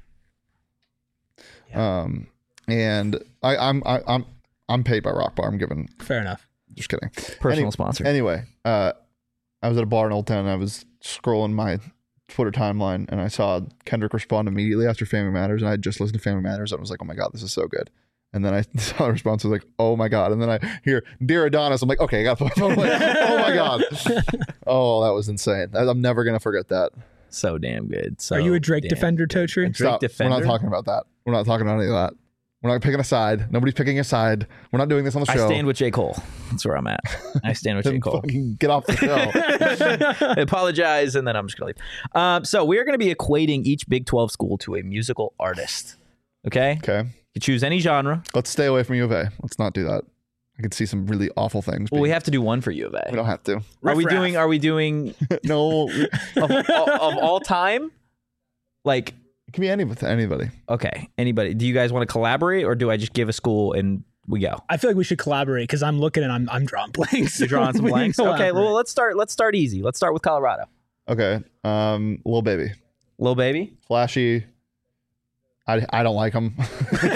Yeah. And I'm paid by Rock Bar. I'm giving. Fair enough. Just kidding. Personal sponsor. Anyway, I was at a bar in Old Town and I was scrolling my Twitter timeline and I saw Kendrick respond immediately after Family Matters, and I had just listened to Family Matters and I was like, oh my God, this is so good. And then I saw the response, I was like, oh my God. And then I hear Dear Adonis. I'm like, okay, I got the phone. I'm like, oh my God. Oh, that was insane. I'm never going to forget that. So damn good. So are you a Drake defender, Totri? Stop. Defender? We're not talking about that. We're not talking about any of that. We're not picking a side. Nobody's picking a side. We're not doing this on the show. I stand with J. Cole. That's where I'm at. I stand with J. Cole. Fucking get off the show. I apologize, and then I'm just going to leave. So we are going to be equating each Big 12 school to a musical artist. Okay? Okay. You choose any genre. Let's stay away from U of A. Let's not do that. I could see some really awful things. Well, we have to do one for U of A. We don't have to. Are we doing no of all time? Like It can be anybody. Okay, anybody. Do you guys want to collaborate, or do I just give a school and we go? I feel like we should collaborate because I'm looking and I'm drawing blanks. You're drawing some blanks. Okay, well let's start easy. Let's start with Colorado. Okay, Lil Baby. Lil Baby. Flashy. I don't like him.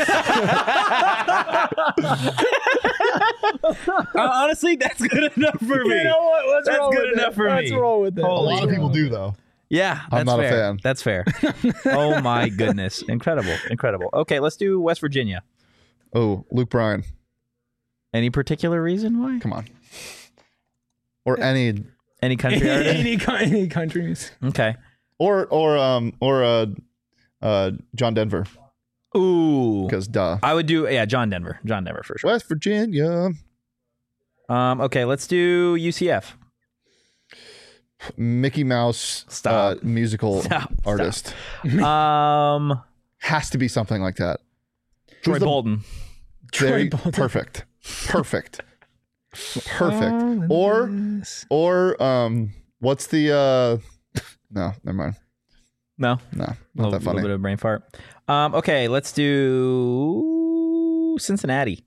Honestly, that's good enough for me. You know what? That's good enough for me. Let's roll with it. A lot of people do though. Yeah, I'm not a fan. That's fair. Oh my goodness, incredible. Okay, let's do West Virginia. Oh, Luke Bryan. Any particular reason why? Come on. Or any country artist? any countries. Okay. Or John Denver. Ooh. Because duh. I would do John Denver. John Denver for sure. West Virginia. Okay, let's do UCF. Mickey Mouse musical artist. Has to be something like that. Troy Bolton. Perfect. Or what's the no, never mind. No, not that funny. A little bit of brain fart. Okay, let's do Cincinnati.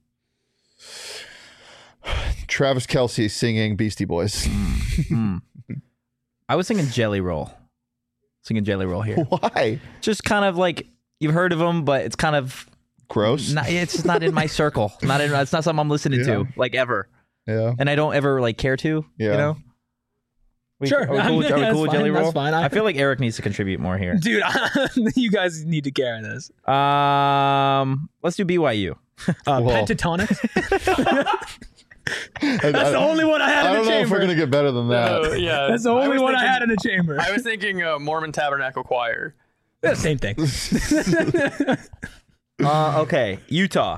Travis Kelce singing Beastie Boys. I was thinking Jelly Roll. Here. Why? Just kind of like you've heard of them, but it's kind of gross. It's just not in my circle. It's not something I'm listening to like ever. Yeah. And I don't ever like care to. Yeah. You know. Sure. Are we cool with Jelly Roll? That's fine. I feel like Eric needs to contribute more here. Dude, you guys need to carry this. Let's do BYU. Pentatonic. That's the only one I had in the chamber. I don't know if we're going to get better than that. Yeah. That's the only one I had in the chamber. I was thinking Mormon Tabernacle Choir. Yeah, same thing. Okay. Utah.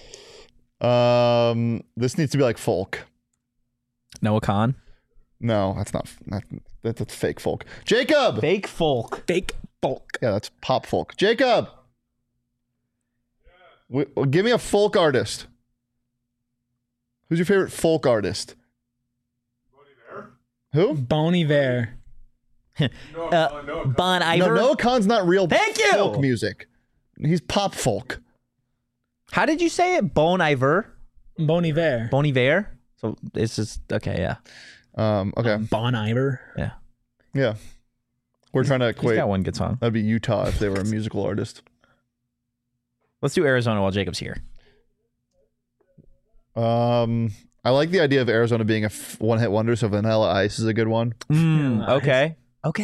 This needs to be like folk. Noah Khan. No, that's not. That's fake folk. Jacob. Fake folk. Yeah, that's pop folk. Jacob. Give me a folk artist. Who's your favorite folk artist? Who? Bon Iver. Bon Iver. No, Noah Khan's not real. Thank you. Folk music. He's pop folk. How did you say it? Bon Iver. Bon Iver. Bon Iver. So it's just okay. Yeah. Okay. Bon Iver. Yeah. Yeah. We're trying to equate. He's got one good song. That'd be Utah if they were a musical artist. Let's do Arizona while Jacob's here. I like the idea of Arizona being a one-hit wonder, so Vanilla Ice is a good one. Okay.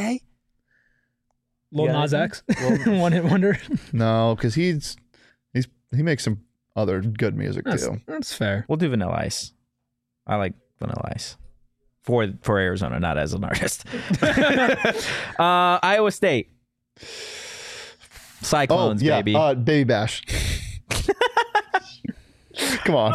Lil Nas X, one-hit wonder. No, because he makes some other good music too. That's fair. We'll do Vanilla Ice. I like Vanilla Ice for Arizona, not as an artist. Iowa State. Cyclones, baby. Baby Bash. Come on.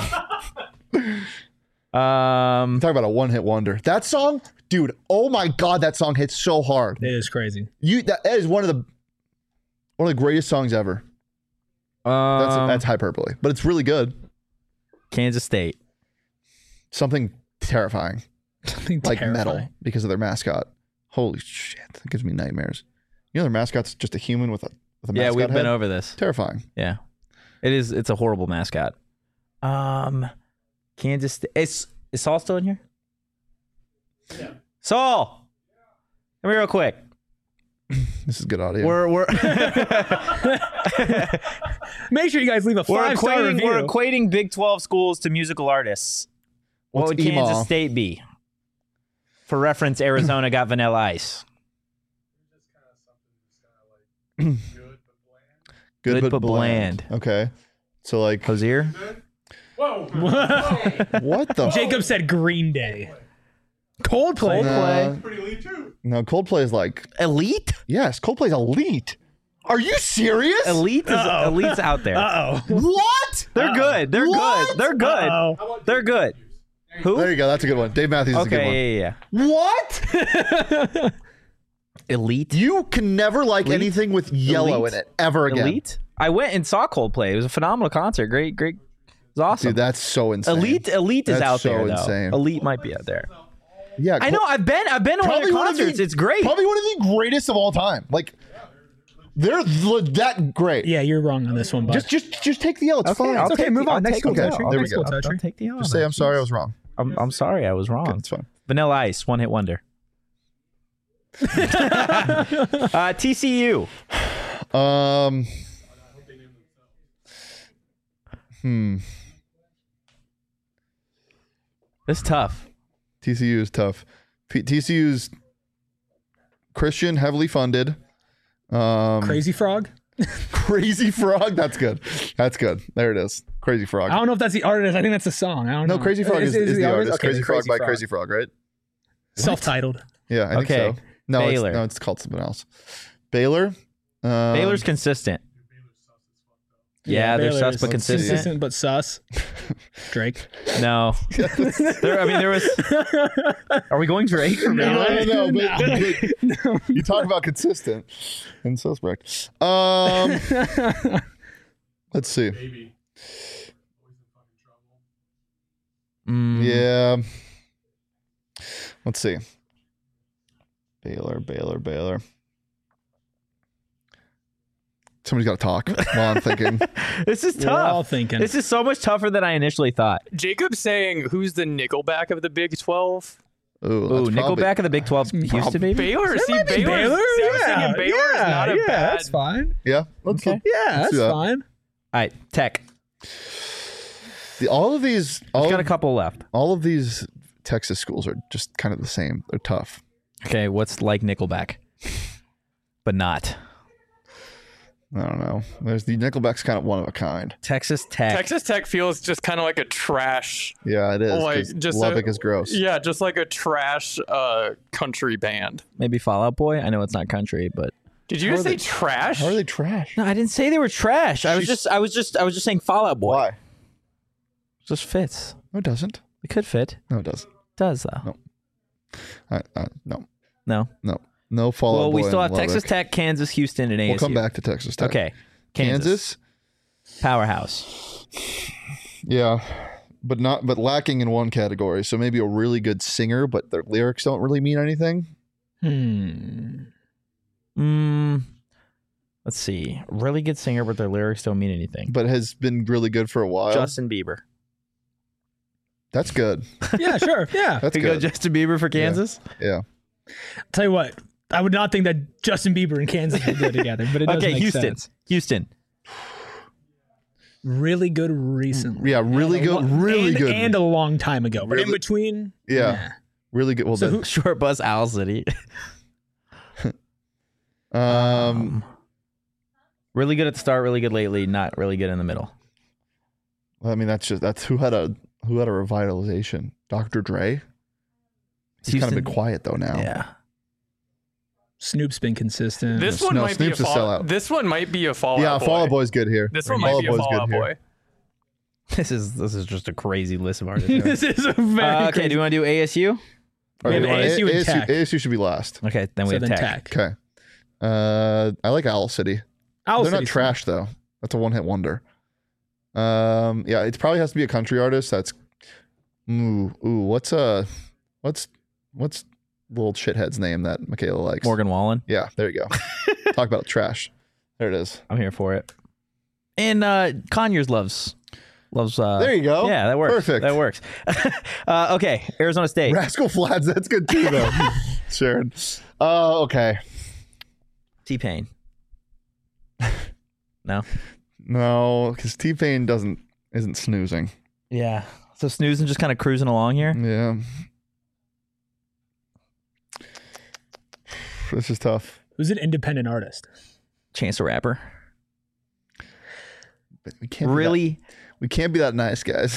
Talk about a one-hit wonder. That song, dude. Oh my god, that song hits so hard. It is crazy. That is one of the greatest songs ever. That's hyperbole, but it's really good. Kansas State. Something terrifying. Like metal because of their mascot. Holy shit, that gives me nightmares. You know their mascot's just a human with a mascot Yeah, we've head? been over this. Terrifying. Yeah. It's a horrible mascot. Kansas State. Is Saul still in here? Yeah. Saul! Come here real quick. This is good audio. We're Make sure you guys leave a 5-star review. We're equating Big 12 schools to musical artists. What would Kansas State be? For reference, Arizona got Vanilla Ice. Good but bland. Okay. So like Hosier? Whoa. What the? Jacob said Green Day. Coldplay. Pretty elite too. No, Coldplay is like Elite? yes, Coldplay's elite. Are you serious? Elite's out there. What? They're good. They're good. They're good. They're good. Who? There you go. That's a good one. Dave Matthews is a good one. Yeah. What? Elite? You can never like anything with yellow in it ever again. Elite? I went and saw Coldplay. It was a phenomenal concert. Great. It was awesome. Dude, that's so insane. Elite is That's out there so though. insane. Elite might be out there. Yeah, I know. I've been to one of their concerts. It's great. Probably one of the greatest of all time. Like They're that great. Yeah, you're wrong on this one, bud. Just take the L. It's fine. It's okay. Move on. Next school okay. toucher. There we Next school go. toucher. I'll take the L. Just say I'm sorry I was wrong. I'm sorry I was wrong. Okay, it's fine. Vanilla Ice, one hit wonder. TCU. It's tough. TCU is tough. TCU's Christian, heavily funded. Crazy Frog. Crazy Frog. That's good. That's good. There it is. Crazy Frog. I don't know if that's the artist. I think that's the song. I don't know. No, Crazy Frog is the artist. Okay, Crazy Frog by Crazy Frog, right? Self-titled. Yeah, I think so. No, Baylor. It's called something else. Baylor. Baylor's consistent. Yeah, they're sus but consistent. Consistent but sus. Drake. No. There was. Are we going Drake? No. But you talk about consistent and suspect. Let's see. Yeah. Let's see. Baylor. Somebody's got to talk while I'm thinking. This is tough. We're all thinking. This is so much tougher than I initially thought. Jacob's saying, who's the Nickelback of the Big 12? Ooh, Nickelback of the Big 12, Houston, maybe? Baylor. See, might be Baylor. Yeah, Baylor is not a bad. That's fine. Yeah. Let's Okay. Yeah, that's fine. All right, Tech. All of these. We've got a couple left. All of these Texas schools are just kind of the same. They're tough. Okay, what's like Nickelback? But not. I don't know. There's the Nickelback's kind of one of a kind. Texas Tech. Texas Tech feels just kind of like a trash. Yeah, it is. Like just Lubbock is gross. Yeah, just like a trash country band. Maybe Fall Out Boy. I know it's not country, but Did you just say trash? How are they trash? no, I didn't say they were trash. I was just saying Fall Out Boy. Why? It just fits. No, it doesn't. It could fit. No, it doesn't. It does though. No. No. No follow. Well, we still have Texas Tech, Kansas, Houston, and ASU. We'll come back to Texas Tech. Okay. Kansas. Powerhouse. Yeah, but lacking in one category. So maybe a really good singer, but their lyrics don't really mean anything. Let's see. Really good singer, but their lyrics don't mean anything. But has been really good for a while. Justin Bieber. That's good. Yeah, sure. Yeah. That's Could good. go Justin Bieber for Kansas? Yeah. Tell you what, I would not think that Justin Bieber and Kansas would go together, but it does make sense. Houston. Really good recently. Yeah, really good. Really good. And a long time ago. But in between, yeah. Really good. Well, So then, Short Bus, Owl City. Really good at the start, really good lately, not really good in the middle. I mean, that's who had a revitalization. Dr. Dre. He's kind of been quiet though now. Yeah. Snoop's been consistent. This one might be a Snoop's a sellout. This one might be a Fall Out Yeah, Boy. Fall Out Boy's good here. This one might be a Fall Out Boy. This is just a crazy list of artists. This is a very Okay, do you want to do ASU? All We have ASU and Tech. ASU should be last. Okay, then we So have then Tech. Tech. Okay. I like Owl City. Owl They're not City's trash though. That's a one-hit wonder. Yeah, it probably has to be a country artist. That's what's little shithead's name that Michaela likes? Morgan Wallen. Yeah, there you go. Talk about trash. There it is. I'm here for it. And Conyers loves. There you go. Yeah, that works. Perfect. That works. Okay, Arizona State. Rascal Flatts. That's good too, though. Sharon. Okay. T-Pain. No. No, because T-Pain isn't snoozing. Yeah. So snoozing, just kind of cruising along here. Yeah. This is tough. Who's an independent artist? Chance the Rapper. But we can't we can't be that nice, guys.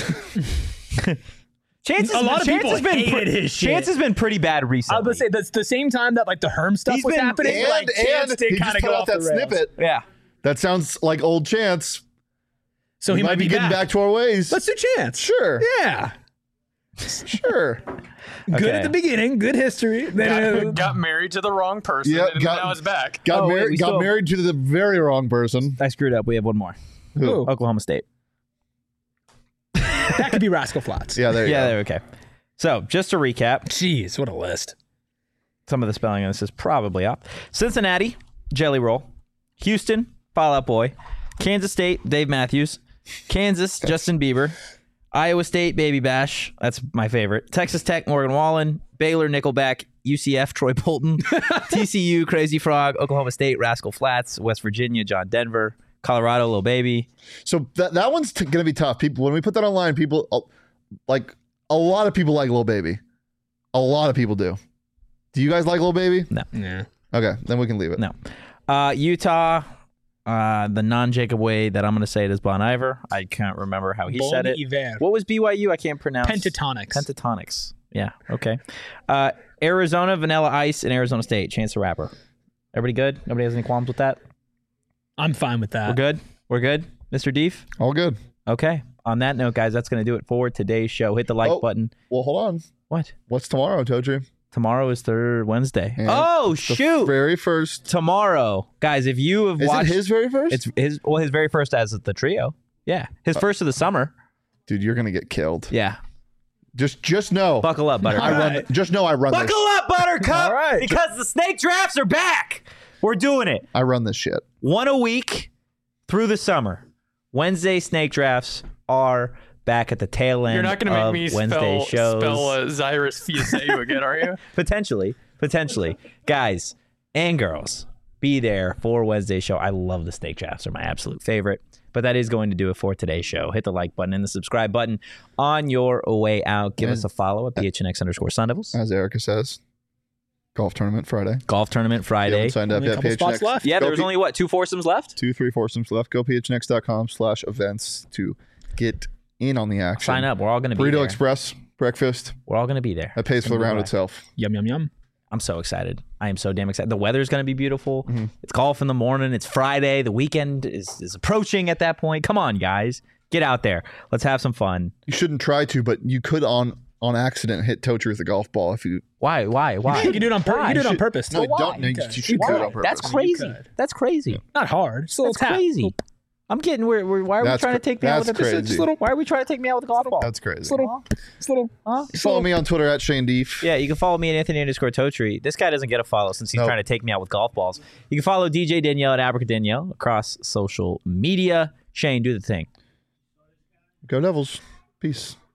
A lot of people hated his shit. Chance has been pretty bad recently. I was going to say, that's the same time that like the Herm stuff was happening. And Chance did he kind just of put go out off that the rails. snippet. Yeah. That sounds like old Chance. So he might be getting back to our ways. Let's do Chance. Sure. Yeah. Sure. Good at the beginning. Good history. Got married to the wrong person, Yep, and now it's back. Got married to the very wrong person. I screwed up. We have one more. Who? Oklahoma State. That could be Rascal Flatts. Yeah, there you go. Okay. So just to recap, Jeez, what a list. some of the spelling on this is probably off. Cincinnati, Jelly Roll. Houston, Fall Out Boy. Kansas State, Dave Matthews. Kansas, Justin Bieber. Iowa State, Baby Bash. That's my favorite. Texas Tech, Morgan Wallen. Baylor, Nickelback. UCF, Troy Bolton. TCU, Crazy Frog. Oklahoma State, Rascal Flatts. West Virginia, John Denver. Colorado, Lil Baby. So that one's going to be tough. People, when we put that online, people like a lot of people like Lil Baby. A lot of people do. Do you guys like Lil Baby? No. Yeah. Okay, then we can leave it. No. Utah, the non-Jacob way that I'm going to say it is Bon Iver. I can't remember how he said it. Iver. What was BYU? I can't pronounce. Pentatonics. Yeah, okay. Arizona, Vanilla Ice, and Arizona State, Chance the Rapper. Everybody good? Nobody has any qualms with that? I'm fine with that. We're good? Mr. Deef? All good. Okay. On that note, guys, that's going to do it for today's show. Hit the like button. Well, hold on. What? What's tomorrow, Totri? Tomorrow is Wednesday. And shoot. Very first. Tomorrow. Guys, if you have watched. Is it his very first? It's his very first as the trio. Yeah. His first of the summer. Dude, you're going to get killed. Yeah. Just know. Buckle up, Buttercup. Just know I run this. Buckle up, Buttercup. All right. Because the snake drafts are back. We're doing it. I run this shit. One a week through the summer. Wednesday snake drafts are back at the tail end. You're not going to make me Wednesday shows. spell Zyrus Fiaseu again, are you? Potentially. Guys and girls, be there for Wednesday's show. I love the snake drafts. They're my absolute favorite. But that is going to do it for today's show. Hit the like button and the subscribe button on your way out. Give us a follow at PHNX_Sun Devils. As Erica says, golf tournament Friday. Signed up yet. Spots left. Yeah, there was only, 2 foursomes left? 3 foursomes left. Go phnx.com/events to get in on the action. Sign up. We're all going to be there. Burrito Express, breakfast. We're all going to be there. That pays for the round itself. Yum, yum, yum. I'm so excited. I am so damn excited. The weather's going to be beautiful. Mm-hmm. It's golf in the morning. It's Friday. The weekend is approaching at that point. Come on, guys. Get out there. Let's have some fun. You shouldn't try to, but you could on accident hit Totri with a golf ball if you... Why? You can do it on purpose. You do it on purpose. No, don't. You should do it on purpose. That's crazy. That's crazy. Yeah. Not hard. It's a little That's crazy. I'm getting why are we trying to take me out with why are we trying to take me out with a golf ball? That's crazy. It's little. Follow me on Twitter at Shane Deef. Yeah, you can follow me at Anthony_Totri. This guy doesn't get a follow since he's trying to take me out with golf balls. You can follow DJ Danielle at Abrica Danielle across social media. Shane, do the thing. Go Devils. Peace.